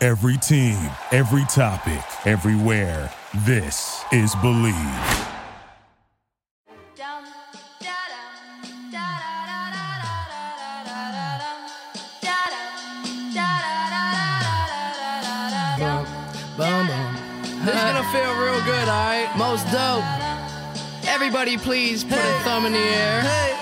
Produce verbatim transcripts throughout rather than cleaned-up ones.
Every team, every topic, everywhere. This is Believe. This is gonna feel real good, alright? Most dope. Everybody please put hey. a thumb in the air. Hey.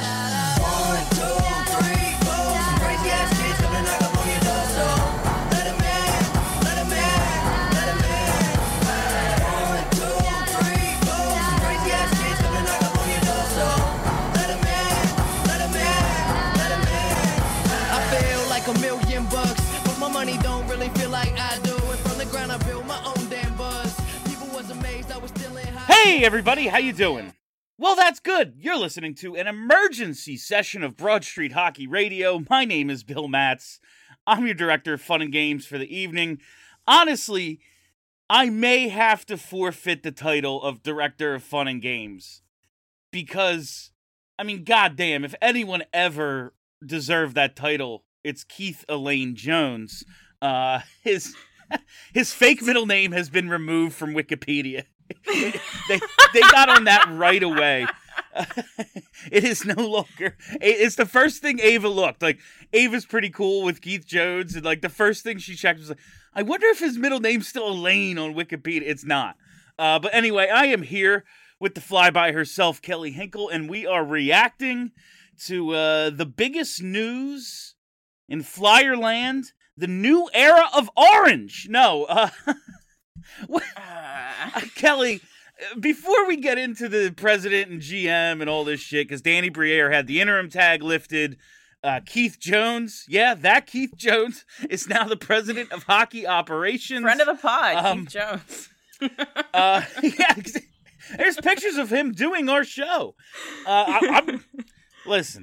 One, two, three, four. Some crazy ass kids coming knock up on your door, so let 'em in, let 'em in, let 'em in. One, two, three, four. Some crazy ass kids coming knock up on your door, so let 'em in, let 'em in, let 'em in. I feel like a million bucks, but my money don't really feel like I do. And from the ground I built my own damn buzz. People was amazed I was still in high. Hey everybody, how you doing? Well, that's good. You're listening to an emergency session of Broad Street Hockey Radio. My name is Bill Matz. I'm your director of fun and games for the evening. Honestly, I may have to forfeit the title of director of fun and games because, I mean, goddamn, if anyone ever deserved that title, it's Keith Elaine Jones. Uh, his his fake middle name has been removed from Wikipedia. they they got on that right away. Uh, it is no longer. It's the first thing Ava looked like. Ava's pretty cool with Keith Jones, and like the first thing she checked was like, I wonder if his middle name's still Elaine on Wikipedia. It's not. Uh, but anyway, I am here with the flyby herself, Kelly Hinkle, and we are reacting to uh, the biggest news in Flyerland: the new era of Orange. No. Uh, What, uh, Kelly, before we get into the president and G M and all this shit, because Danny Briere had the interim tag lifted, uh, Keith Jones, yeah, that Keith Jones is now the president of hockey operations. Friend of the pod, um, Keith Jones. uh, yeah, there's pictures of him doing our show. Uh, I, I'm, listen,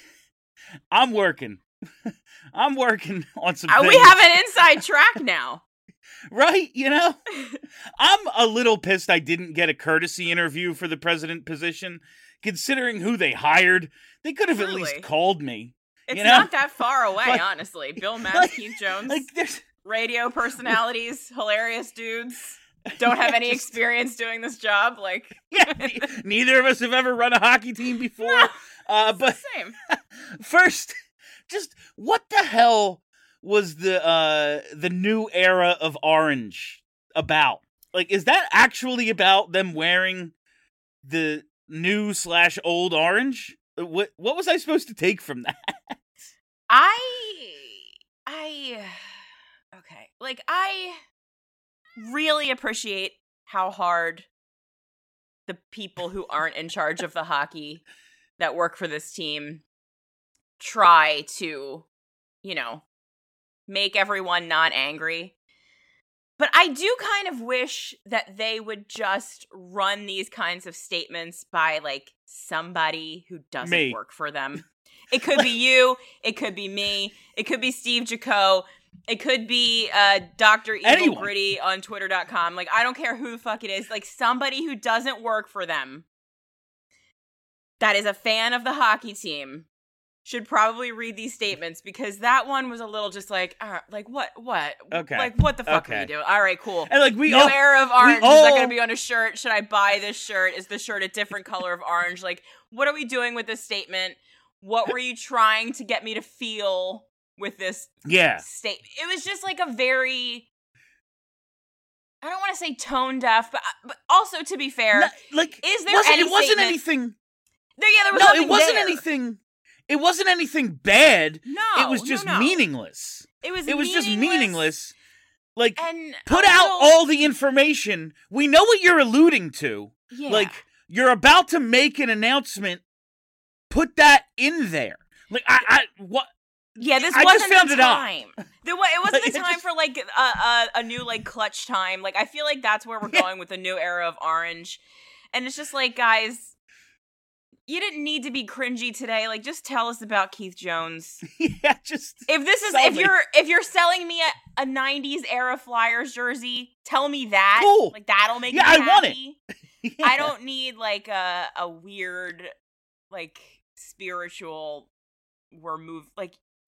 I'm working. I'm working on some uh, things. We have an inside track now. Right, you know? I'm a little pissed I didn't get a courtesy interview for the president position, considering who they hired. They could have Truly. at least called me. It's you know? not that far away, like, honestly. Bill Matz, like, Keith Jones, like radio personalities, hilarious dudes, don't have any just, experience doing this job. Like, yeah, neither of us have ever run a hockey team before. No, uh, it's but the same. First, just what the hell was the uh the new era of Orange about? Like, is that actually about them wearing the new slash old orange? What what was I supposed to take from that? I I okay. Like, I really appreciate how hard the people who aren't in charge of the hockey that work for this team try to, you know, make everyone not angry. But I do kind of wish that they would just run these kinds of statements by, like, somebody who doesn't me. work for them. It could be you. It could be me. It could be Steve Jaco. It could be uh, Doctor Evil Anyone. Gritty on Twitter dot com. Like, I don't care who the fuck it is. Like, somebody who doesn't work for them that is a fan of the hockey team should probably read these statements, because that one was a little just like, uh, like what, what, okay, like what the fuck okay. are you doing? All right, cool. And like we New all, era of orange. all, Is that going to be on a shirt? Should I buy this shirt? Is the shirt a different color of orange? Like, what are we doing with this statement? What were you trying to get me to feel with this yeah statement? It was just like a very, I don't want to say tone deaf, but but also, to be fair, no, like is there wasn't, any it wasn't statement- anything. There, yeah, there was no, nothing it wasn't there. anything. It wasn't anything bad. No, it was just no, no. meaningless. It was. It was meaningless, just meaningless. Like, and put a out little- all the information. We know what you're alluding to. Yeah. Like, you're about to make an announcement. Put that in there. Like, I, I what? Yeah, this I wasn't just found the it out. time. There wa- it wasn't Like, the it time just- for, like, a, a, a new, like, clutch time. Like, I feel like that's where we're Yeah. going with the new era of Orange. And it's just like, guys, you didn't need to be cringy today. Like, just tell us about Keith Jones. Yeah, just If this is, sell if me. you're, if you're selling me a, a nineties era Flyers jersey, tell me that. Cool. Like, that'll make Yeah, me I happy. want it. Yeah. I don't need, like, a, a weird, like, spiritual, we're moved, like,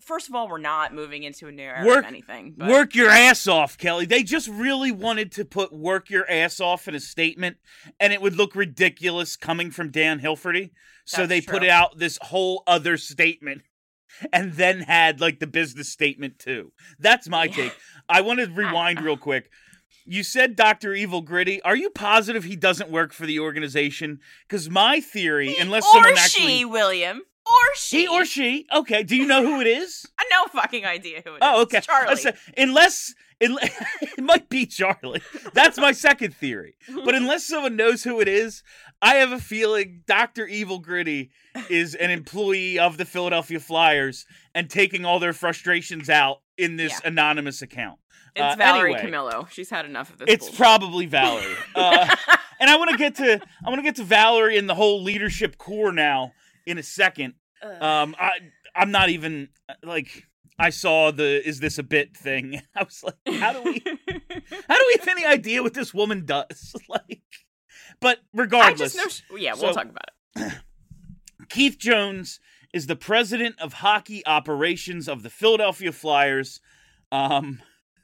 first of all, we're not moving into a new era Work, of anything. But... Work your ass off, Kelly. They just really wanted to put work your ass off in a statement, and it would look ridiculous coming from Dan Hilferty. So That's they true. put out this whole other statement and then had, like, the business statement, too. That's my Yeah. take. I want to rewind real quick. You said Doctor Evil Gritty. Are you positive he doesn't work for the organization? Because my theory, unless or someone she, actually... William. Or she. He or she. Okay, do you know who it is? I have no fucking idea who it is. Oh, okay. It's Charlie. I said, unless... It, it might be Charlie. That's my second theory. But unless someone knows who it is, I have a feeling Doctor Evil Gritty is an employee of the Philadelphia Flyers and taking all their frustrations out in this Yeah. anonymous account. It's Uh, Valerie anyway, Camillo. She's had enough of this. It's bullshit. probably Valerie. Uh, and I want to get to I want to get to Valerie and the whole leadership core now in a second. Ugh. Um, I I'm not even like. I saw the "is this a bit" thing. I was like, how do we, how do we have any idea what this woman does? Like, but I regardless, just know. She, yeah, we'll So- talk about it. Keith Jones is the president of hockey operations of the Philadelphia Flyers. Um,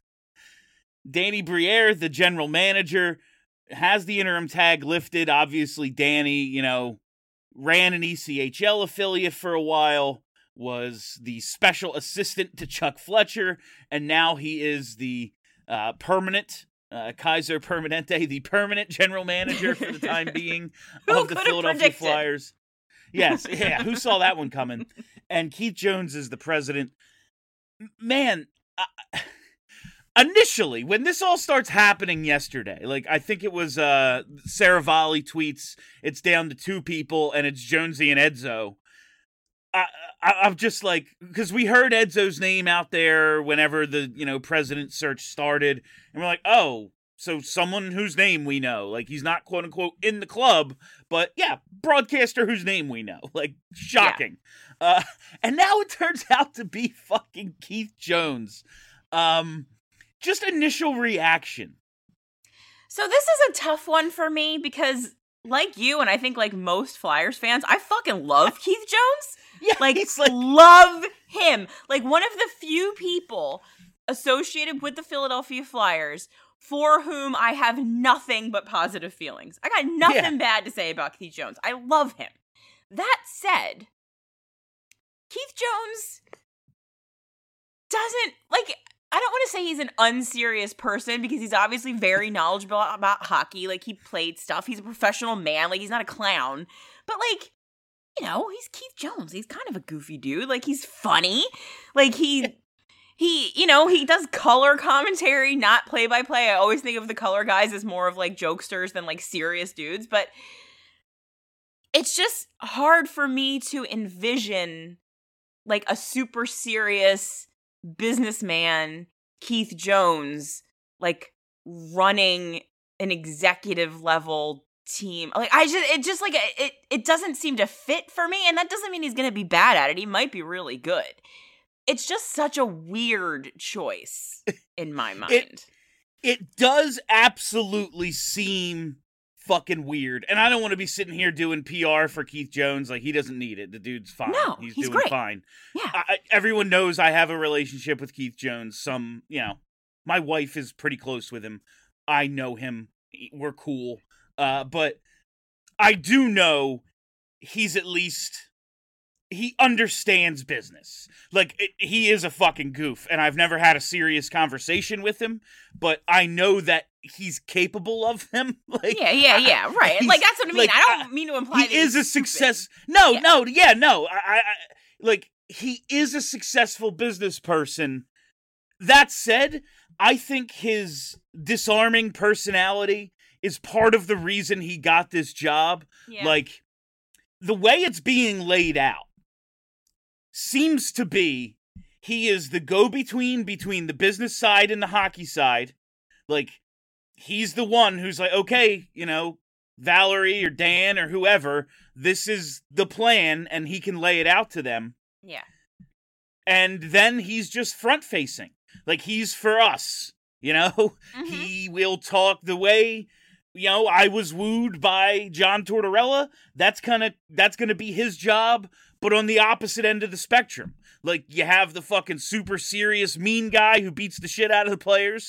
Danny Briere, the general manager, has the interim tag lifted. Obviously, Danny, you know, ran an E C H L affiliate for a while, was the special assistant to Chuck Fletcher, and now he is the uh, permanent, uh, Kaiser Permanente, the permanent general manager for the time being Who of the could have Philadelphia predicted? Flyers. Yes, yeah, who saw that one coming? And Keith Jones is the president. M- Man, uh, initially, when this all starts happening yesterday, like, I think it was uh, Sarah Volley tweets, it's down to two people, and it's Jonesy and Edzo. I, I, I'm just like, because we heard Edzo's name out there whenever the, you know, president search started, and we're like, oh, so someone whose name we know. Like, he's not, quote unquote, in the club, but yeah, broadcaster whose name we know. Like, shocking. Uh, and now it turns out to be fucking Keith Jones. Um, just initial reaction. So this is a tough one for me because, like you, and I think like most Flyers fans, I fucking love Keith Jones. Yeah, Like, he's like, love him. Like, one of the few people associated with the Philadelphia Flyers for whom I have nothing but positive feelings. I got nothing Yeah. bad to say about Keith Jones. I love him. That said, Keith Jones doesn't, like, I don't want to say he's an unserious person because he's obviously very knowledgeable about hockey. Like, he played stuff. He's a professional man. Like, he's not a clown. But, like, you know, he's Keith Jones. He's kind of a goofy dude. Like, he's funny. Like, he, he, you know, he does color commentary, not play-by-play. I always think of the color guys as more of, like, jokesters than, like, serious dudes. But it's just hard for me to envision, like, a super serious businessman, Keith Jones, like, running an executive level team. Like, I just, it just, like, it, it doesn't seem to fit for me, and that doesn't mean he's gonna be bad at it. He might be really good. It's just such a weird choice in my mind. It, it does absolutely seem fucking weird. And I don't want to be sitting here doing P R for Keith Jones. Like, he doesn't need it. The dude's fine. No, he's, he's doing great. fine. Yeah. I, I- everyone knows I have a relationship with Keith Jones. Some, you know, my wife is pretty close with him. I know him. We're cool. Uh, but I do know he's at least, he understands business. Like, it, he is a fucking goof, and I've never had a serious conversation with him, but I know that he's capable of them. Like, yeah, yeah, yeah, right. he's- Like, that's what I mean. like, I don't uh, mean to imply that he is he's a stupid. success. No, Yeah. no, yeah, no. I, I, I, like, he is a successful business person. That said, I think his disarming personality is part of the reason he got this job. Yeah. Like, the way it's being laid out seems to be he is the go-between between the business side and the hockey side. Like, he's the one who's like, okay, you know, Valerie or Dan or whoever, this is the plan, and he can lay it out to them. yeah. And then he's just front-facing. Like, he's for us, you know? Mhm. He will talk the way, you know, I was wooed by John Tortorella. That's kind of, that's going to be his job, but on the opposite end of the spectrum. Like, you have the fucking super serious mean guy who beats the shit out of the players.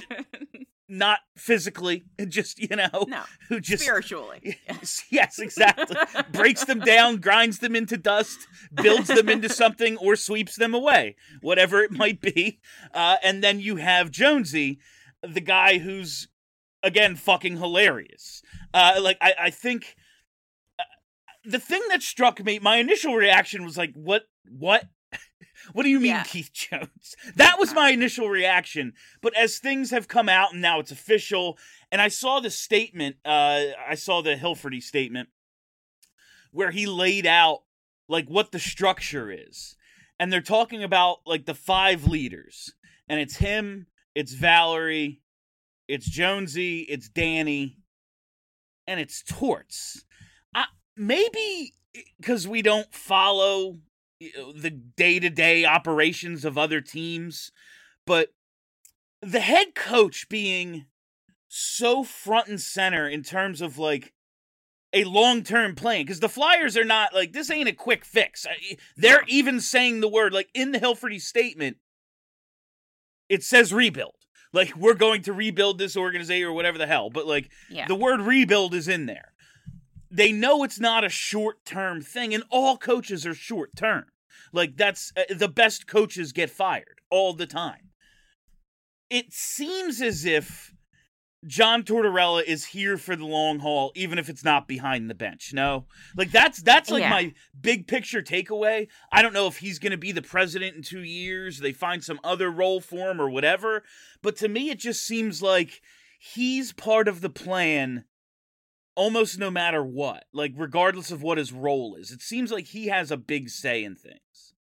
Not physically, just, you know. No, who just spiritually. Yes, yes, exactly. Breaks them down, grinds them into dust, builds them into something, or sweeps them away. Whatever it might be. Uh, and then you have Jonesy, the guy who's, again, fucking hilarious. Uh, like, I, I think... Uh, the thing that struck me, my initial reaction was like, what? What? What do you mean, yeah. Keith Jones? That was my initial reaction. But as things have come out and now it's official, and I saw the statement, uh, I saw the Hilferty statement, where he laid out, like, what the structure is. And they're talking about, like, the five leaders. And it's him, it's Valerie, it's Jonesy, it's Danny, and it's Torts. I, maybe because we don't follow the day-to-day operations of other teams, but the head coach being so front and center in terms of, like, a long-term plan, because the Flyers are not, like, this ain't a quick fix. They're even saying the word, like, in the Hilferty statement, it says rebuild. Like, we're going to rebuild this organization or whatever the hell, but, like, yeah. the word rebuild is in there. They know it's not a short-term thing, and all coaches are short-term. Like, that's, uh, the best coaches get fired all the time. It seems as if John Tortorella is here for the long haul, even if it's not behind the bench, no? Like, that's, that's like, yeah. my big picture takeaway. I don't know if he's going to be the president in two years, they find some other role for him or whatever, but to me, it just seems like he's part of the plan almost no matter what, like, regardless of what his role is. It seems like he has a big say in things.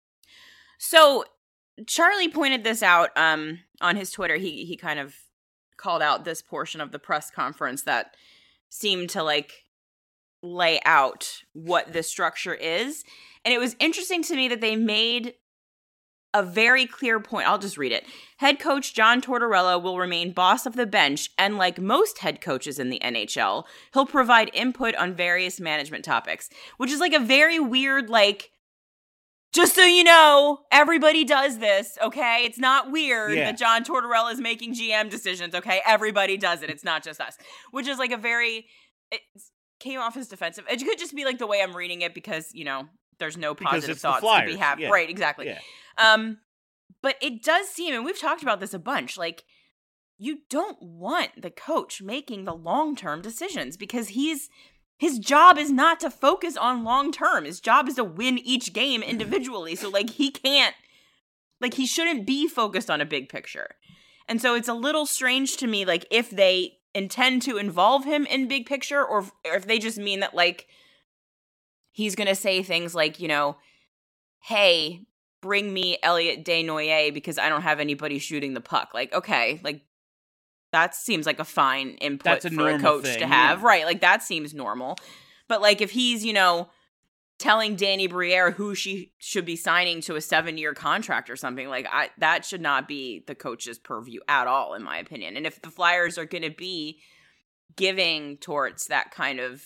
So, Charlie pointed this out um, on his Twitter. He he kind of called out this portion of the press conference that seemed to, like, lay out what the structure is. And it was interesting to me that they made a very clear point. I'll just read it. Head coach John Tortorella will remain boss of the bench, and like most head coaches in the N H L, he'll provide input on various management topics, which is like a very weird, like, just so you know, everybody does this, okay? It's not weird yeah. that John Tortorella is making G M decisions, okay? Everybody does it. It's not just us, which is like a very, it came off as defensive. It could just be like the way I'm reading it because, you know, there's no positive thoughts to be had. Yeah. Right, exactly. Yeah. Um, but it does seem, and we've talked about this a bunch, like, you don't want the coach making the long-term decisions because he's, his job is not to focus on long-term. His job is to win each game individually. So, like, he can't, like, he shouldn't be focused on a big picture. And so it's a little strange to me, like, if they intend to involve him in big picture or, or if they just mean that, like, he's going to say things like, you know, hey, bring me Elliot Desnoyers because I don't have anybody shooting the puck. Like, okay, like, that seems like a fine input a for a coach thing, to have. Yeah. Right, like, that seems normal. But, like, if he's, you know, telling Danny Briere who she should be signing to a seven-year contract or something, like, I that should not be the coach's purview at all, in my opinion. And if the Flyers are going to be giving Torts that kind of,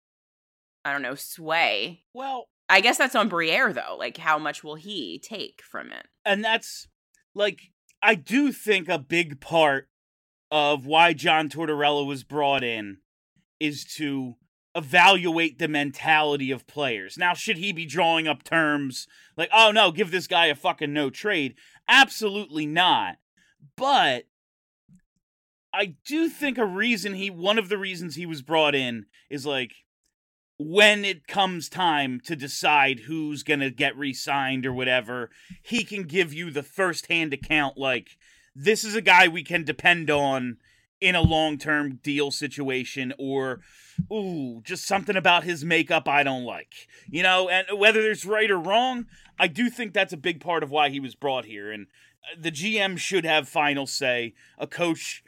I don't know, sway, well, I guess that's on Briere, though. Like, how much will he take from it? And that's, like, I do think a big part of why John Tortorella was brought in is to evaluate the mentality of players. Now, should he be drawing up terms like, oh, no, give this guy a fucking no trade? Absolutely not. But I do think a reason he, one of the reasons he was brought in is, like, when it comes time to decide who's going to get re-signed or whatever, he can give you the first-hand account, like, this is a guy we can depend on in a long-term deal situation, or, ooh, just something about his makeup I don't like. You know, and whether it's right or wrong, I do think that's a big part of why he was brought here, and the G M should have final say. A coach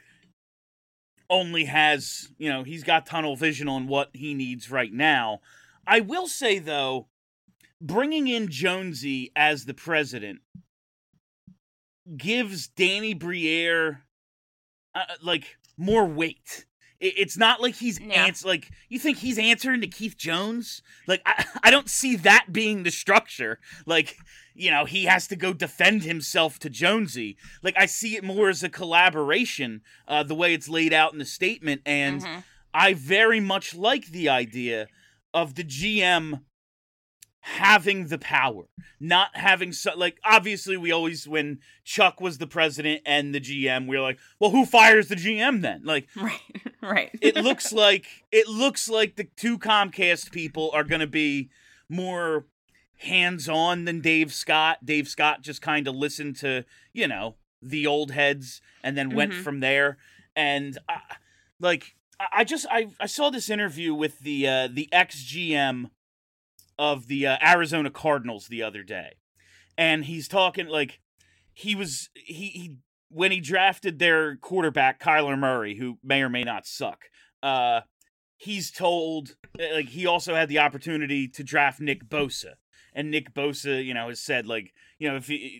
only has, you know, he's got tunnel vision on what he needs right now. I will say, though, bringing in Jonesy as the president gives Danny Briere, uh, like, more weight. It, it's not like he's, yeah. ans- like, you think he's answering to Keith Jones? Like, I, I don't see that being the structure. Like, you know, he has to go defend himself to Jonesy. Like, I see it more as a collaboration, uh, the way it's laid out in the statement, and mm-hmm. I very much like the idea of the G M having the power, not having, so, like, obviously we always, when Chuck was the president and the G M, we were like, well, who fires the G M then? Like, right, right. it looks like, it looks like the two Comcast people are going to be more hands-on than Dave Scott. Dave Scott just kind of listened to, you know, the old heads and then mm-hmm. went from there. And, uh, like, I just, I, I saw this interview with the, uh, the ex-G M of the uh, Arizona Cardinals the other day. And he's talking, like, he was, he, he, when he drafted their quarterback, Kyler Murray, who may or may not suck, uh, he's told, like, he also had the opportunity to draft Nick Bosa. And Nick Bosa, you know, has said, like, you know, if you,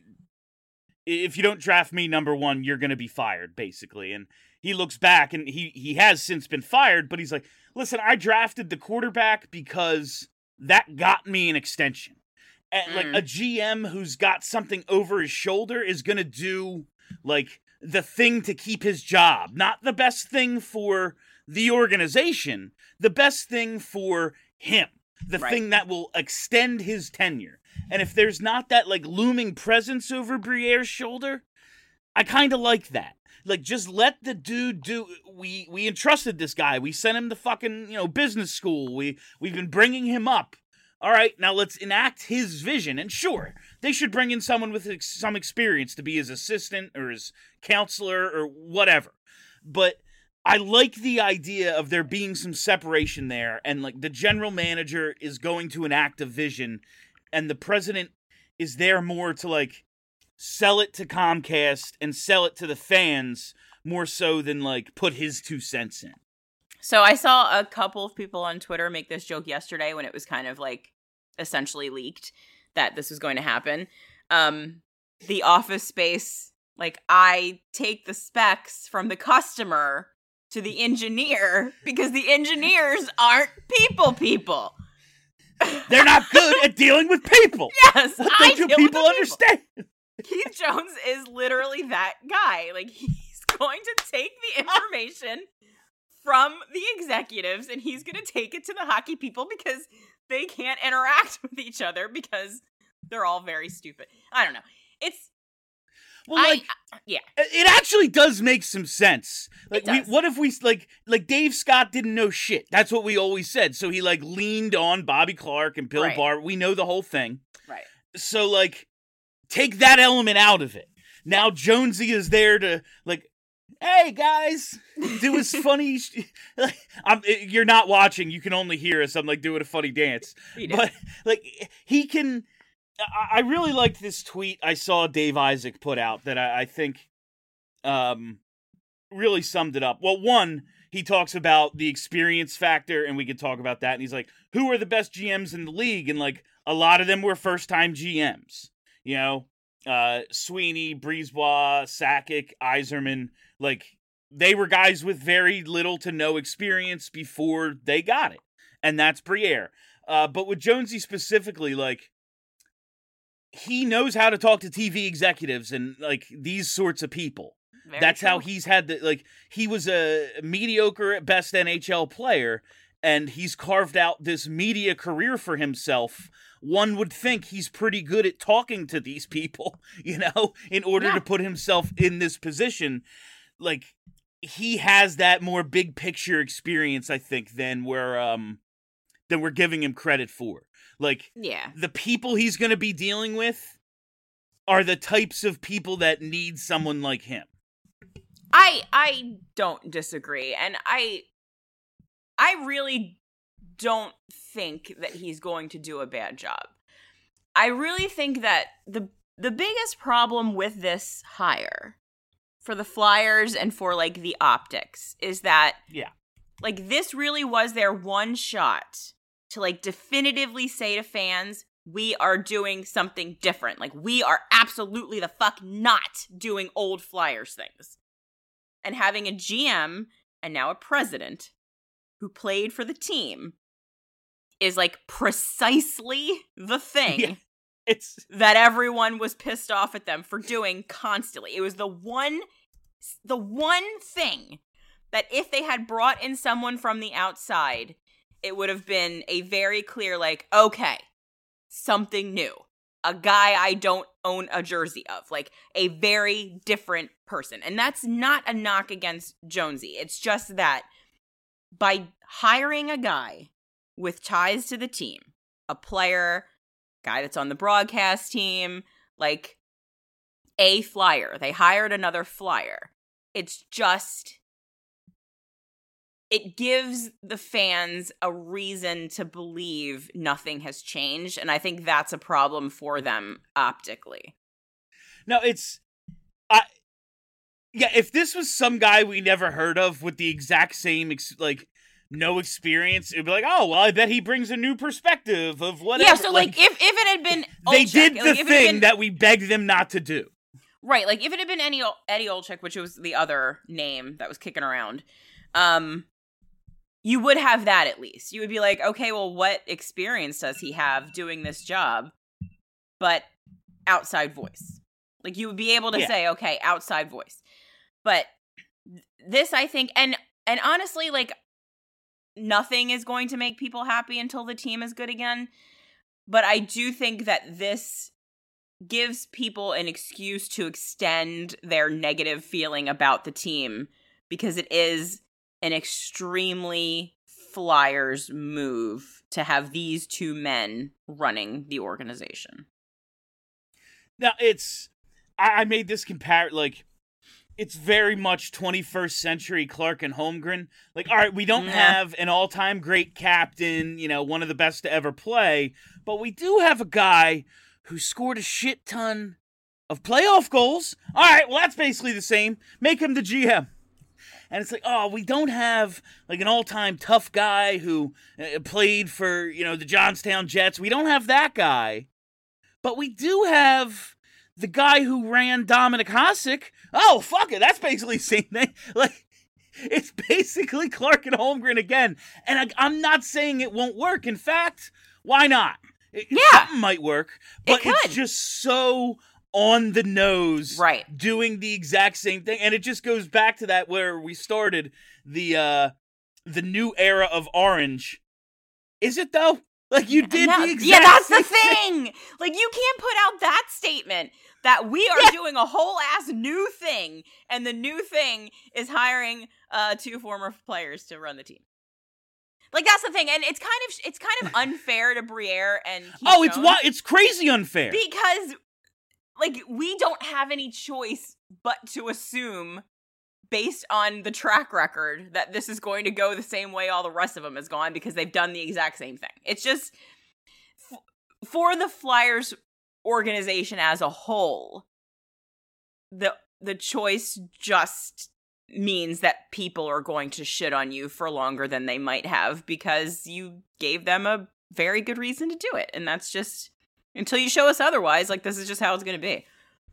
if you don't draft me number one, you're going to be fired, basically. And he looks back, and he, he has since been fired, but he's like, listen, I drafted the quarterback because that got me an extension. And, mm. like, a G M who's got something over his shoulder is going to do, like, the thing to keep his job. Not the best thing for the organization, the best thing for him. The right. thing that will extend his tenure. And if there's not that, like, looming presence over Briere's shoulder, I kind of like that. Like, just let the dude do... We we entrusted this guy. We sent him to fucking, you know, business school. We, we've been bringing him up. All right, now let's enact his vision. And sure, they should bring in someone with ex- some experience to be his assistant or his counselor or whatever. But I like the idea of there being some separation there, and, like, the general manager is going to enact a vision, and the president is there more to, like, sell it to Comcast and sell it to the fans more so than, like, put his two cents in. So I saw a couple of people on Twitter make this joke yesterday when it was kind of, like, essentially leaked that this was going to happen. Um, the Office Space, like, I take the specs from the customer to the engineer because the engineers aren't people people. They're not good at dealing with people. Yes, what I don't deal you people with understand? People. Keith Jones is literally that guy. Like, he's going to take the information from the executives and he's going to take it to the hockey people because they can't interact with each other because they're all very stupid. I don't know. It's Well, like, I, yeah, it actually does make some sense. Like, we, what if we, like, like Dave Scott didn't know shit? That's what we always said. So he, like, leaned on Bobby Clark and Bill right. Barr. We know the whole thing. Right. So, like, take that element out of it. Now Jonesy is there to, like, hey, guys, do his funny... Sh- like, I'm, you're not watching. You can only hear us. I'm, like, doing a funny dance. But, like, he can... I really liked this tweet I saw Dave Isaac put out that I, I think um, really summed it up. Well, one, he talks about the experience factor, and we could talk about that. And he's like, who are the best G Ms in the league? And, like, a lot of them were first-time G Ms. You know, uh, Sweeney, Brisebois, Sakic, Yzerman. Like, they were guys with very little to no experience before they got it. And that's Briere. Uh, but with Jonesy specifically, like, he knows how to talk to T V executives and, like, these sorts of people. Very That's true. How he's had the, like, he was a mediocre at best N H L player, and he's carved out this media career for himself. One would think he's pretty good at talking to these people, you know, in order yeah. to put himself in this position. Like, he has that more big picture experience, I think, than we're, um, than we're giving him credit for. Like, yeah. the people he's going to be dealing with are the types of people that need someone like him. I I don't disagree, and I I really don't think that he's going to do a bad job. I really think that the the biggest problem with this hire for the Flyers and for, like, the optics is that yeah. like, this really was their one shot to, like, definitively say to fans, we are doing something different. Like, we are absolutely the fuck not doing old Flyers things. And having a G M and now a president who played for the team is, like, precisely the thing yeah. It's that everyone was pissed off at them for doing constantly. It was the one, the one thing that if they had brought in someone from the outside, it would have been a very clear, like, okay, something new. A guy I don't own a jersey of. Like, a very different person. And that's not a knock against Jonesy. It's just that by hiring a guy with ties to the team, a player, guy that's on the broadcast team, like a flyer. They hired another flyer. It's just, it gives the fans a reason to believe nothing has changed. And I think that's a problem for them optically. No, it's, I, yeah, if this was some guy we never heard of with the exact same, ex- like, no experience, it'd be like, oh, well, I bet he brings a new perspective of whatever. Yeah, so, like, like if, if it had been They Olczyk, did the like, if thing been, that we begged them not to do. Right, like, if it had been Eddie, Eddie Olczyk, which was the other name that was kicking around, um, you would have that at least. You would be like, okay, well, what experience does he have doing this job? But outside voice. Like, you would be able to yeah. say, okay, outside voice. But this, I think, and and honestly, like, nothing is going to make people happy until the team is good again. But I do think that this gives people an excuse to extend their negative feeling about the team because it is an extremely Flyers move to have these two men running the organization. Now, it's, I, I made this compare, like, it's very much twenty-first century Clark and Holmgren. Like, all right, we don't yeah. have an all-time great captain, you know, one of the best to ever play, but we do have a guy who scored a shit ton of playoff goals. All right, well, that's basically the same. Make him the G M. And it's like, oh, we don't have, like, an all-time tough guy who uh, played for, you know, the Johnstown Jets. We don't have that guy. But we do have the guy who ran Dominic Hasek. Oh, fuck it. That's basically the same thing. Like, it's basically Clark and Holmgren again. And I, I'm not saying it won't work. In fact, why not? It, yeah. Something might work. But it it's just so on the nose, right? Doing the exact same thing. And it just goes back to that where we started, the uh, the new era of Orange. Is it, though? Like, you did no, the exact Yeah, that's same the thing. thing. Like, you can't put out that statement that we are yeah. doing a whole ass new thing, and the new thing is hiring uh, two former players to run the team. Like, that's the thing, and it's kind of it's kind of unfair to Briere and Keith oh, it's Jones why it's crazy unfair because, like, we don't have any choice but to assume, based on the track record, that this is going to go the same way all the rest of them has gone because they've done the exact same thing. It's just, f- for the Flyers organization as a whole, the the choice just means that people are going to shit on you for longer than they might have because you gave them a very good reason to do it. And that's just, until you show us otherwise, like, this is just how it's going to be.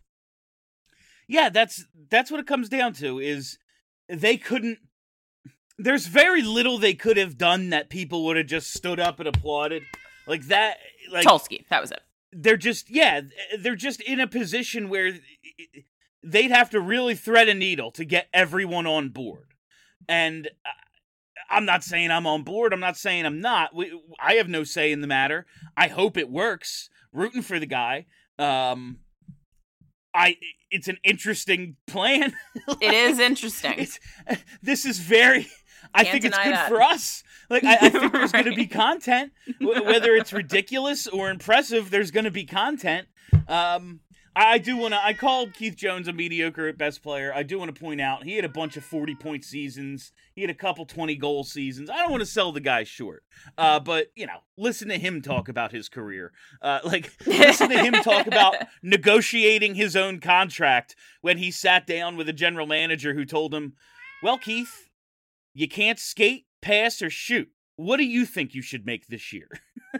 Yeah, that's that's what it comes down to, is they couldn't, there's very little they could have done that people would have just stood up and applauded. Like that, like Tulski, that was it. They're just, yeah, they're just in a position where they'd have to really thread a needle to get everyone on board. And I'm not saying I'm on board. I'm not saying I'm not. We, I have no say in the matter. I hope it works. Rooting for the guy. Um, I. It's an interesting plan. Like, it is interesting. It's, this is very. I Can't think it's good that. for us. Like, I, I think there's Right. going to be content, w- whether it's ridiculous or impressive. There's going to be content. Um, I do want to. I called Keith Jones a mediocre at best player. I do want to point out he had a bunch of forty point seasons. He had a couple twenty goal seasons. I don't want to sell the guy short, uh, but you know, listen to him talk about his career. Uh, like, listen to him talk about negotiating his own contract when he sat down with a general manager who told him, "Well, Keith, you can't skate, pass, or shoot. What do you think you should make this year?"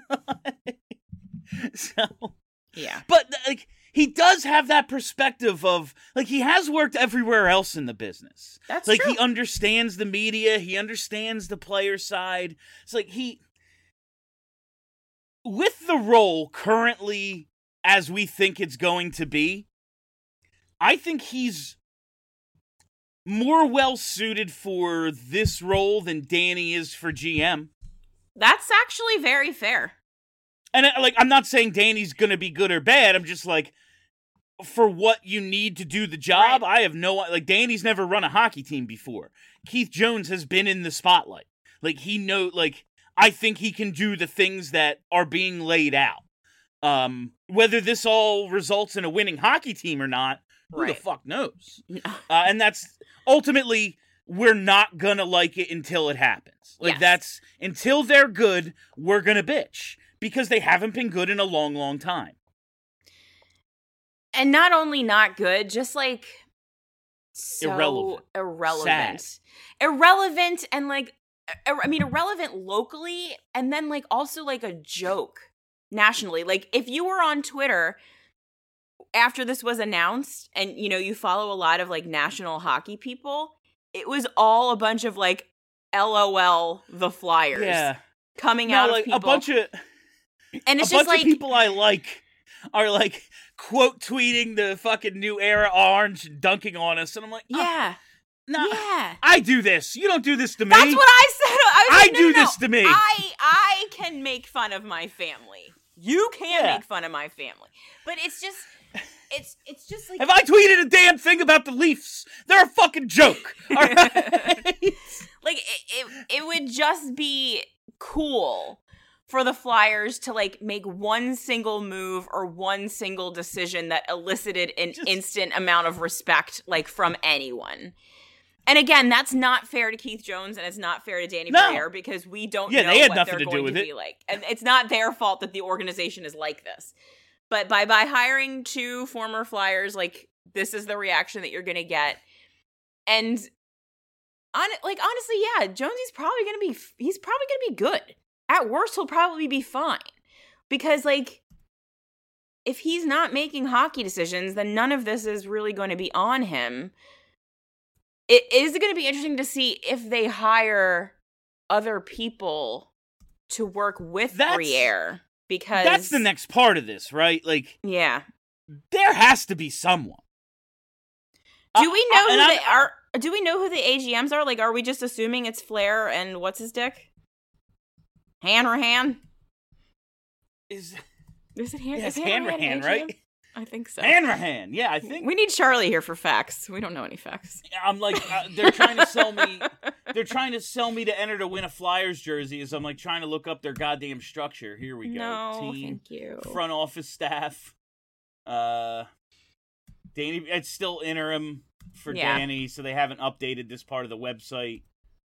So, yeah, but like, he does have that perspective of, like, he has worked everywhere else in the business. That's like true. He understands the media, he understands the player side. It's like he, with the role currently as we think it's going to be, I think he's more well-suited for this role than Danny is for G M. That's actually very fair. And, like, I'm not saying Danny's going to be good or bad. I'm just like, for what you need to do the job, right. I have no... Like, Danny's never run a hockey team before. Keith Jones has been in the spotlight. Like, he know... Like, I think he can do the things that are being laid out. Um, whether this all results in a winning hockey team or not, who right. the fuck knows? uh, and that's... Ultimately, we're not gonna like it until it happens. Like, yes. that's... Until they're good, we're gonna bitch. Because they haven't been good in a long, long time. And not only not good, just like so irrelevant. Irrelevant. Sad. Irrelevant and like, I mean, irrelevant locally and then like also like a joke nationally. Like if you were on Twitter after this was announced and, you know, you follow a lot of like national hockey people, it was all a bunch of like LOL the Flyers yeah. coming no, out like of people. A bunch of, and it's a just bunch like, of people I like are like quote tweeting the fucking new era orange and dunking on us. And I'm like, oh, yeah. No, yeah. I do this. You don't do this to me. That's what I said. I, was I like, no, do no, no. this to me. I I can make fun of my family. You can't Yeah. make fun of my family. But it's just, it's it's just like. Have I tweeted a damn thing about the Leafs? They're a fucking joke. All right? Like it, it, it would just be cool for the Flyers to like make one single move or one single decision that elicited an Just- instant amount of respect, like from anyone. And again, that's not fair to Keith Jones and it's not fair to Danny No. Briere because we don't Yeah, know they had what nothing they're to do going with to it. be like. And it's not their fault that the organization is like this. But by by hiring two former Flyers, like this is the reaction that you're going to get. And on like honestly, yeah, Jonesy's probably going to be he's probably going to be good. At worst, he'll probably be fine. Because like if he's not making hockey decisions, then none of this is really going to be on him. It is going to be interesting to see if they hire other people to work with That's- Briere because That's the next part of this, right? Like, yeah. there has to be someone. Do we know Uh, who and they I'm- are? Do we know who the A G Ms are? Like, are we just assuming it's Flair and what's his dick? Hanrahan? Is Is it Han- yeah, is it's Hanrahan, Hanrahan, an A G M? right? I think so. Hanrahan. Yeah, I think We need Charlie here for facts. We don't know any facts. I'm like uh, they're trying to sell me. They're trying to sell me to enter to win a Flyers jersey. As I'm like trying to look up their goddamn structure. Here we go. No, Team, thank you. front office staff. Uh, Danny. It's still interim for Yeah. Danny, so they haven't updated this part of the website.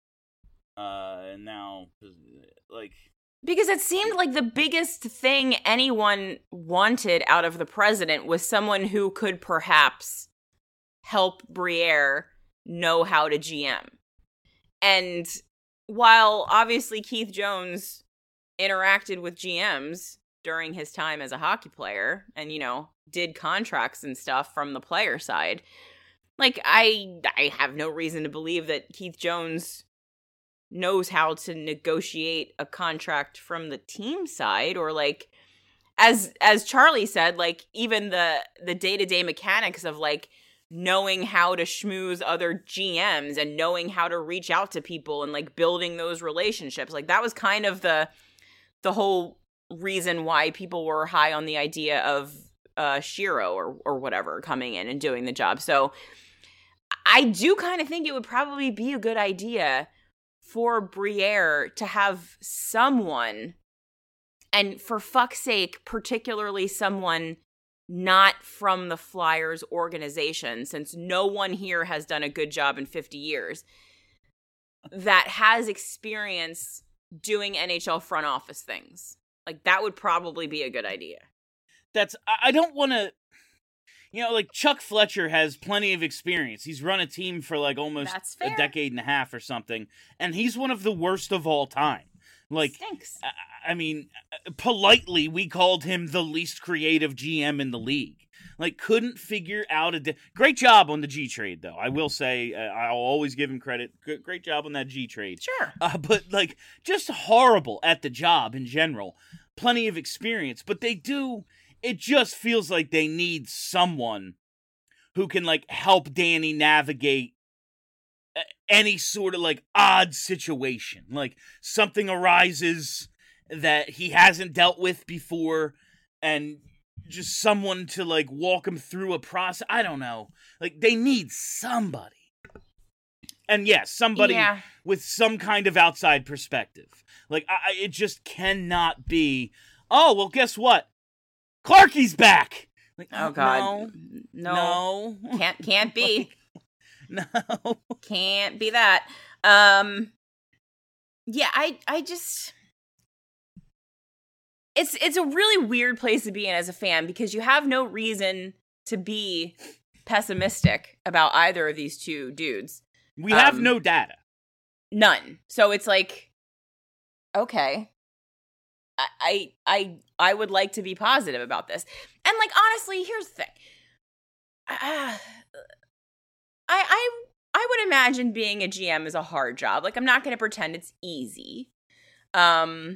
Uh, and now like. Because it seemed like the biggest thing anyone wanted out of the president was someone who could perhaps help Briere know how to G M. And while obviously Keith Jones interacted with G Ms during his time as a hockey player and, you know, did contracts and stuff from the player side, like I I have no reason to believe that Keith Jones knows how to negotiate a contract from the team side or like as as Charlie said, like even the the day-to-day mechanics of like knowing how to schmooze other G Ms and knowing how to reach out to people and like building those relationships. Like that was kind of the the whole reason why people were high on the idea of uh Shiro or or whatever coming in and doing the job. So I do kind of think it would probably be a good idea for Briere to have someone, and for fuck's sake, particularly someone not from the Flyers organization, since no one here has done a good job in fifty years, that has experience doing N H L front office things. Like, that would probably be a good idea. That's, I don't want to, you know, like Chuck Fletcher has plenty of experience. He's run a team for like almost That's a fair. decade and a half or something, and he's one of the worst of all time. Like, Stinks. I, I mean, politely, we called him the least creative G M in the league. Like, couldn't figure out a... Di- Great job on the G-Trade, though. I will say, uh, I'll always give him credit. G- great job on that G-Trade. Sure. Uh, but, like, just horrible at the job in general. Plenty of experience. But they do... it just feels like they need someone who can, like, help Danny navigate any sort of, like, odd situation. Like, something arises that he hasn't dealt with before, and just someone to, like, walk him through a process. I don't know. Like, they need somebody. And yes, somebody Yeah. with some kind of outside perspective. Like, I, it just cannot be, oh, well, guess what? Clarky's back! Like, Oh, God. No. No. No. Can't can't be. No. Can't be that. Um Yeah, I I just It's it's a really weird place to be in as a fan because you have no reason to be pessimistic about either of these two dudes. We have Um, no data. None. So it's like, okay. I, I I I would like to be positive about this. And like honestly, here's the thing. Uh, I I I would imagine being a G M is a hard job. Like I'm not going to pretend it's easy. Um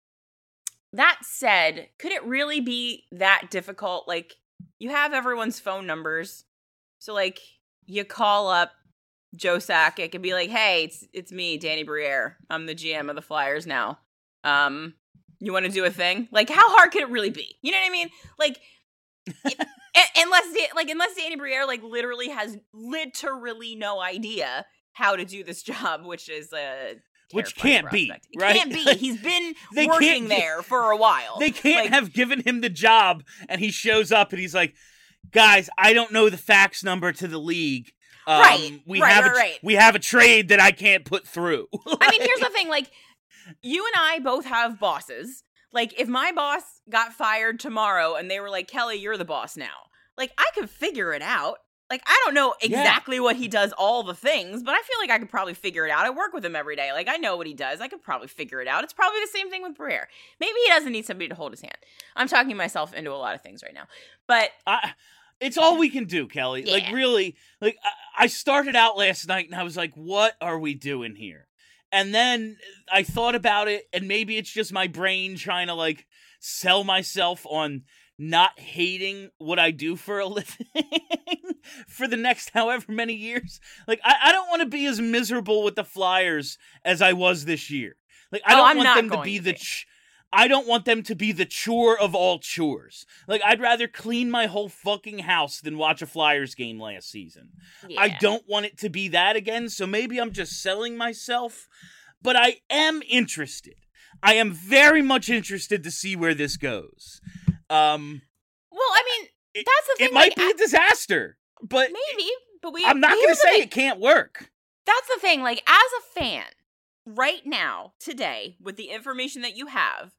that said, could it really be that difficult? Like you have everyone's phone numbers. So like you call up Joe Sakic and be like, "Hey, it's it's me, Danny Briere. I'm the G M of the Flyers now. Um, you want to do a thing? Like, how hard could it really be? You know what I mean? Like, it, a- unless like unless Danny Briere like literally has literally no idea how to do this job, which is a Which terrifying can't be, prospect. It right? Can't be. He's been They working can't be- there for a while. They can't Like, have given him the job, and he shows up and he's like, guys, I don't know the fax number to the league. Um, Right, we right, have right, a, right. We have a trade that I can't put through. I mean, here's the thing, like, you and I both have bosses. Like, if my boss got fired tomorrow and they were like, Kelly, you're the boss now, like, I could figure it out. Like, I don't know exactly Yeah. what he does all the things, but I feel like I could probably figure it out. I work with him every day. Like, I know what he does. I could probably figure it out. It's probably the same thing with Briere. Maybe he doesn't need somebody to hold his hand. I'm talking myself into a lot of things right now. But I, it's all we can do, Kelly. Like, Yeah. really, like, I, I started out last night and I was like, what are we doing here? And then I thought about it, and maybe it's just my brain trying to, like, sell myself on not hating what I do for a living for the next however many years. Like, I, I don't want to be as miserable with the Flyers as I was this year. Like, I Oh, don't I'm want not them to going be to the... be. Ch- I don't want them to be the chore of all chores. Like, I'd rather clean my whole fucking house than watch a Flyers game last season. I yeah. don't want it to be that again, so maybe I'm just selling myself. But I am interested. I am very much interested to see where this goes. Um, Well, I mean, it, that's the thing. it might like, be a disaster, but maybe, but we. I'm not going to here's the say thing. it can't work. That's the thing. Like, as a fan, right now, today, with the information that you have,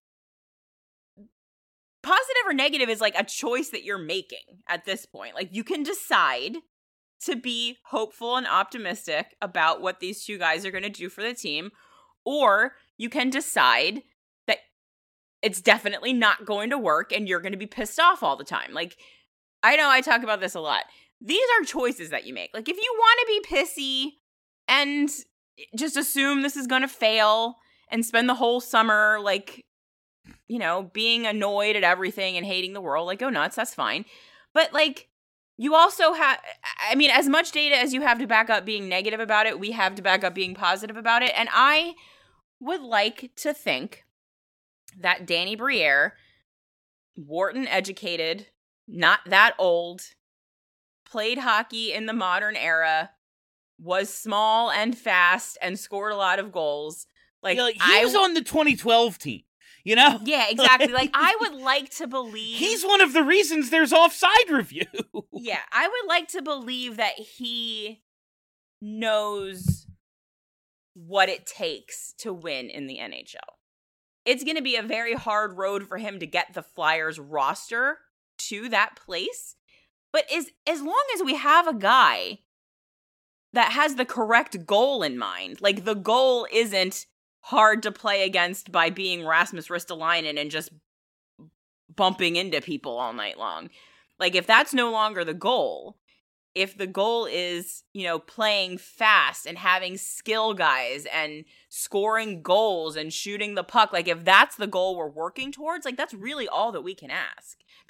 positive or negative is like a choice that you're making at this point. Like, you can decide to be hopeful and optimistic about what these two guys are going to do for the team, or you can decide that it's definitely not going to work and you're going to be pissed off all the time. Like, I know I talk about this a lot. These are choices that you make. Like, if you want to be pissy and just assume this is going to fail and spend the whole summer, like, you know, being annoyed at everything and hating the world, like, go nuts, that's fine. But, like, you also have, I mean, as much data as you have to back up being negative about it, we have to back up being positive about it. And I would like to think that Danny Briere, Wharton educated, not that old, played hockey in the modern era, was small and fast and scored a lot of goals. Like, Yeah, like, he I was on the twenty twelve team, you know? Yeah, exactly. Like, I would like to believe He's one of the reasons there's offside review. Yeah, I would like to believe that he knows what it takes to win in the N H L. It's going to be a very hard road for him to get the Flyers roster to that place. But is as long as we have a guy that has the correct goal in mind, like the goal isn't hard to play against by being Rasmus Ristolainen and just bumping into people all night long. Like, if that's no longer the goal, if the goal is, you know, playing fast and having skill guys and scoring goals and shooting the puck, like, if that's the goal we're working towards, like, that's really all that we can ask.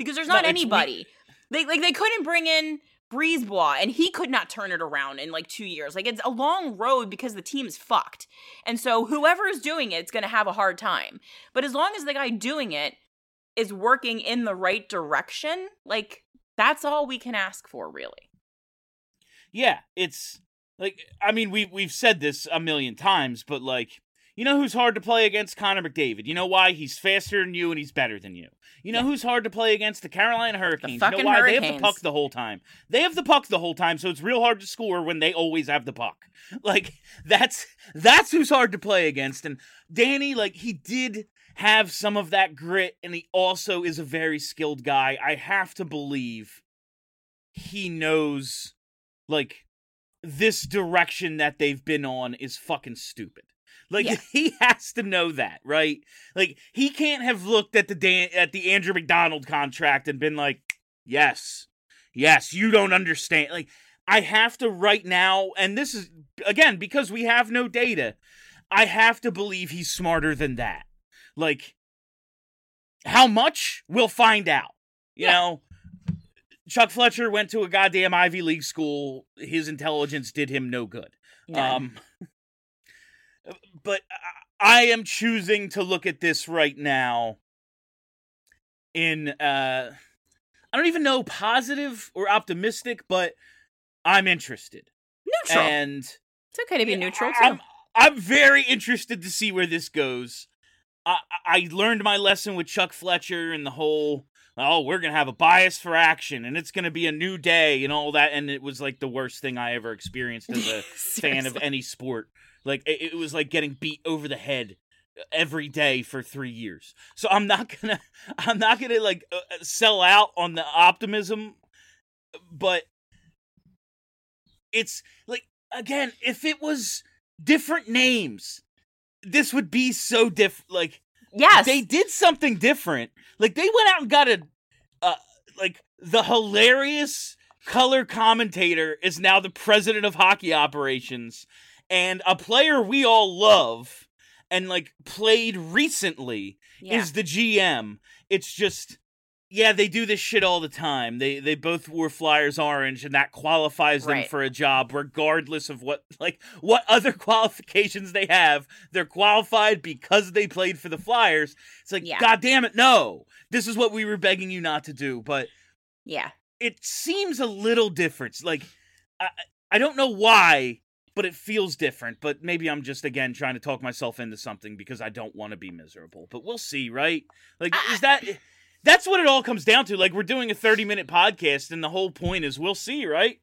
because there's not No, it's anybody. They like they couldn't bring in Brisebois, and he could not turn it around in like two years. Like, it's a long road because the team is fucked. And so whoever is doing it is going to have a hard time. But as long as the guy doing it is working in the right direction, like, that's all we can ask for, really. Yeah, it's like, I mean, we, we've said this a million times, but like, you know who's hard to play against? Connor McDavid. You know why? He's faster than you and he's better than you. You know Yeah. who's hard to play against? The Carolina Hurricanes. The You know fucking why? They have the Hurricanes. puck the whole time. They have the puck the whole time, so it's real hard to score when they always have the puck. Like, that's that's who's hard to play against. And Danny, like, he did have some of that grit, and he also is a very skilled guy. I have to believe he knows, like, this direction that they've been on is fucking stupid. Like, Yeah. he has to know that, right? Like, he can't have looked at the Dan- at the Andrew McDonald contract and been like, yes, yes, you don't understand. Like, I have to right now, and this is, again, because we have no data, I have to believe he's smarter than that. Like, how much? We'll find out. You Yeah. know, Chuck Fletcher went to a goddamn Ivy League school. His intelligence did him no good. Yeah. Um, but I am choosing to look at this right now in, uh, I don't even know positive or optimistic, but I'm interested. Neutral. And It's okay to be neutral, too. I'm, I'm very interested to see where this goes. I, I learned my lesson with Chuck Fletcher and the whole, oh, we're going to have a bias for action and it's going to be a new day and all that. And it was like the worst thing I ever experienced as a fan of any sport. Like, it, it was like getting beat over the head every day for three years. So I'm not going to, I'm not going to like uh, sell out on the optimism, but it's like, again, if it was different names, this would be so different. Like, Yes. they did something different. Like, they went out and got a, uh, like, the hilarious color commentator is now the president of hockey operations, and a player we all love and, like, played recently Yeah. is the G M. It's just, yeah, they do this shit all the time. They they both wore Flyers orange, and that qualifies them Right. for a job, regardless of what like what other qualifications they have. They're qualified because they played for the Flyers. It's like, Yeah. God damn it, no! This is what we were begging you not to do. But Yeah. it seems a little different. Like, I I don't know why, but it feels different. But maybe I'm just, again, trying to talk myself into something because I don't want to be miserable. But we'll see, right? Like, I- is that... That's what it all comes down to. Like, we're doing a thirty-minute podcast, and the whole point is we'll see, right?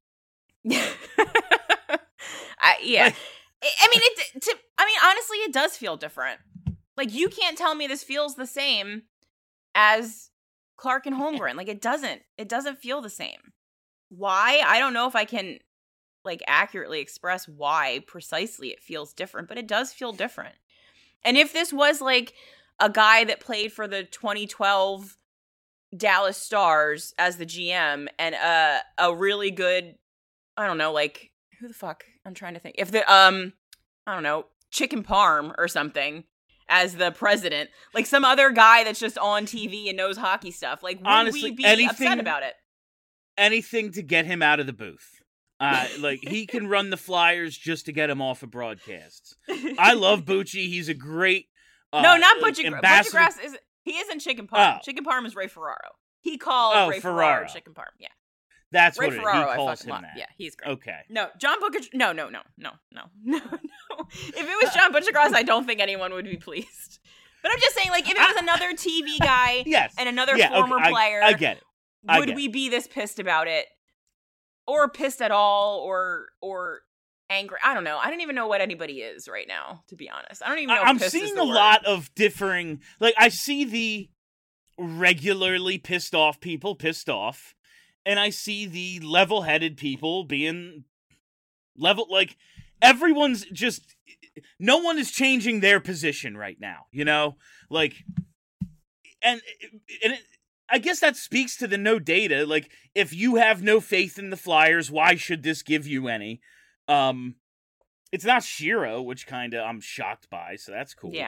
I, yeah. I, I mean, it. To, I mean, honestly, it does feel different. Like, you can't tell me this feels the same as Clark and Holmgren. Like, it doesn't. It doesn't feel the same. Why? I don't know if I can, like, accurately express why precisely it feels different, but it does feel different. And if this was, like, a guy that played for the twenty twelve Dallas Stars as the G M and uh, a really good, I don't know, like, who the fuck? I'm trying to think. If the, um, I don't know, Chicken Parm or something as the president, like some other guy that's just on T V and knows hockey stuff, like, would Honestly, we be anything- upset about it? Anything to get him out of the booth. Uh, like, he can run the Flyers just to get him off of broadcasts. I love Bucci. He's a great uh, no, not Butcher. Butcher ambassador. Grass is he isn't Chicken Parm. Oh. Chicken Parm is Ray Ferraro. He called Oh, Ray Ferraro. Ferraro Chicken Parm. Yeah, That's Ray what it, Ferraro. he I calls fucking him love. that. Yeah, he's great. Okay. No, John Butcher. No, no, no, no, no, no, no. If it was John Butchergrass, I don't think anyone would be pleased. But I'm just saying, like, if it was another T V guy Yes. and another Yeah, okay, former I- player, I get it. I would get we it. be this pissed about it, or pissed at all, or or angry? I don't know. I don't even know what anybody is right now, to be honest. I don't even know. I- if I'm pissed is seeing the a word. lot of differing, like, I see the regularly pissed off people pissed off, and I see the level-headed people being level, like, everyone's just, no one is changing their position right now, you know? Like, and, and it, I guess that speaks to the no data. Like, if you have no faith in the Flyers, why should this give you any? Um, it's not Shiro, which kind of I'm shocked by, so that's cool. Yeah.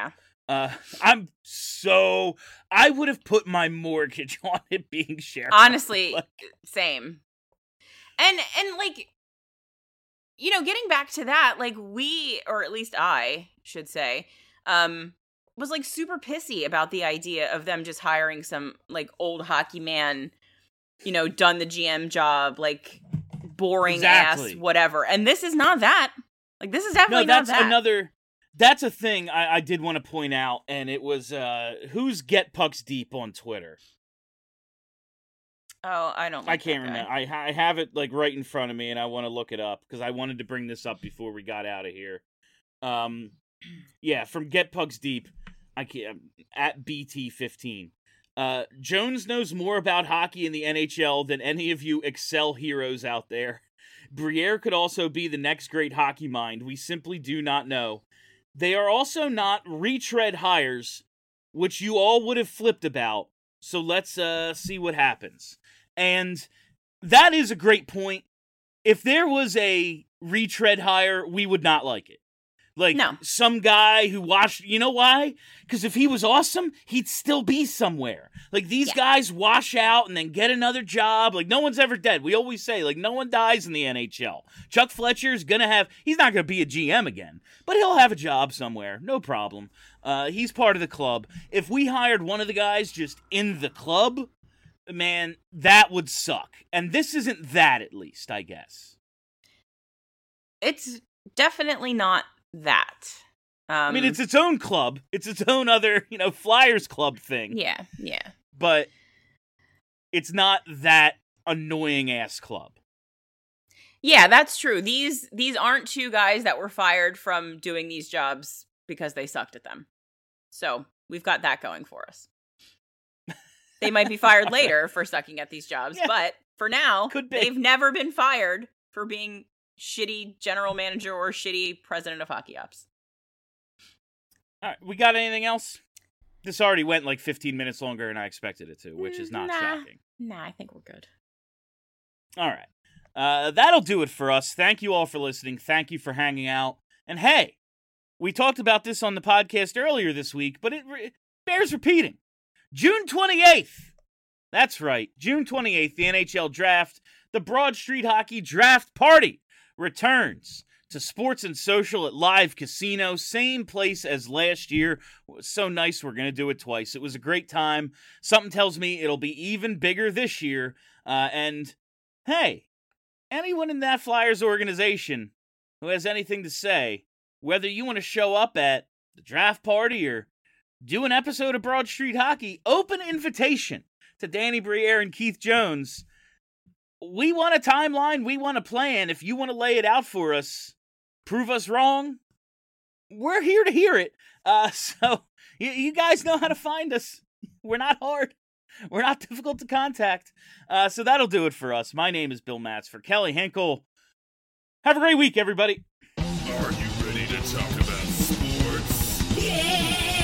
Uh, I'm so I would have put my mortgage on it being shared. Honestly, like, same. And and like, you know, getting back to that, like we, or at least I should say, um, was like super pissy about the idea of them just hiring some like old hockey man, you know, done the G M job, like boring exactly. ass, whatever. And this is not that. Like this is definitely no, that's not that. another. That's a thing I, I did want to point out, and it was uh, who's Get Pucks Deep on Twitter. Oh, I don't. Like I can't that guy. remember. I I have it like right in front of me, and I want to look it up because I wanted to bring this up before we got out of here. Um, yeah, from Get Pucks Deep, I can't at B T fifteen. Uh, Jones knows more about hockey in the N H L than any of you Excel heroes out there. Briere could also be the next great hockey mind. We simply do not know. They are also not retread hires, which you all would have flipped about. So let's uh, see what happens. And that is a great point. If there was a retread hire, we would not like it. Like no. some guy who watched, you know why? Because if he was awesome, he'd still be somewhere. Like these yeah. guys wash out and then get another job. Like no one's ever dead. We always say like no one dies in the N H L. Chuck Fletcher's going to have, he's not going to be a G M again, but he'll have a job somewhere. No problem. Uh, he's part of the club. If we hired one of the guys just in the club, man, that would suck. And this isn't that, at least, I guess. It's definitely not that. Um, I mean, it's its own club. It's its own other, you know, Flyers club thing. Yeah, yeah. But it's not that annoying-ass club. Yeah, that's true. These these aren't two guys that were fired from doing these jobs because they sucked at them. So we've got that going for us. They might be fired later for sucking at these jobs, yeah. but for now, Could be. They've never been fired for being shitty general manager or shitty president of hockey ops. All right, we got anything else? This already went like fifteen minutes longer than I expected it to, which is not nah, shocking. Nah, I think we're good. All right. Uh, that'll do it for us. Thank you all for listening. Thank you for hanging out. And hey, we talked about this on the podcast earlier this week, but it re- bears repeating. June twenty-eighth. That's right. June twenty-eighth, the N H L Draft, the Broad Street Hockey Draft Party returns to Sports and Social at Live Casino. Same place as last year. It was so nice we're going to do it twice. It was a great time. Something tells me it'll be even bigger this year. Uh, and hey, anyone in that Flyers organization who has anything to say, whether you want to show up at the draft party or do an episode of Broad Street Hockey, open invitation to Danny Briere and Keith Jones. We want a timeline. We want a plan. If you want to lay it out for us, prove us wrong, we're here to hear it. Uh, so you, you guys know how to find us. We're not hard. We're not difficult to contact. Uh, so that'll do it for us. My name is Bill Matz for Kelly Hinkle. Have a great week, everybody. Are you ready to talk about sports? Yeah!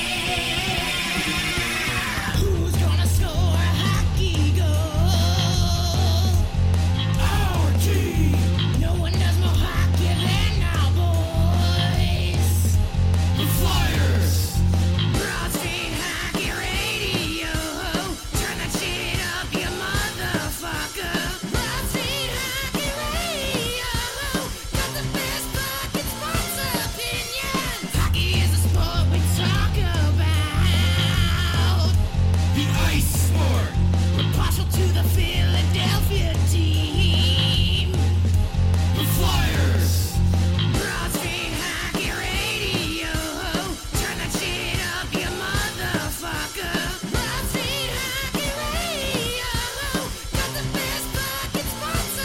Who's gonna score hockey goals? Our team! No one does more hockey than our boys! The Flyers! Broad Street Hockey Radio! Turn that shit up, you motherfucker! Broad Street Hockey Radio! Got the best fucking sports opinions! Hockey is a sport we talk about! The ice sport! We're partial to the Philadelphia team! The Flyers! Broad Street Hockey Radio! Turn that shit up, you motherfucker! Broad Street Hockey Radio! Got the best fucking sports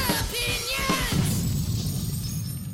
opinions!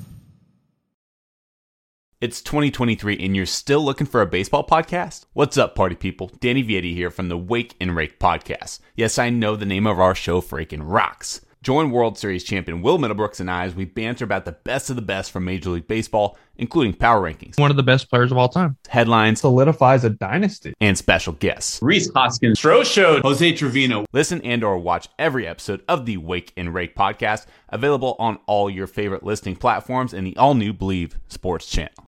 It's twenty twenty-three and you're still looking for a baseball podcast? What's up, party people? Danny Vietti here from the Wake and Rake podcast. Yes, I know the name of our show freaking rocks. Join World Series champion Will Middlebrooks and I as we banter about the best of the best from Major League Baseball, including power rankings, One of the best players of all time. headlines, Solidifies a dynasty. and special guests. Reese Hoskins, Stro Show, Jose Trevino. Listen and or watch every episode of the Wake and Rake podcast, available on all your favorite listening platforms and the all-new Believe Sports channel.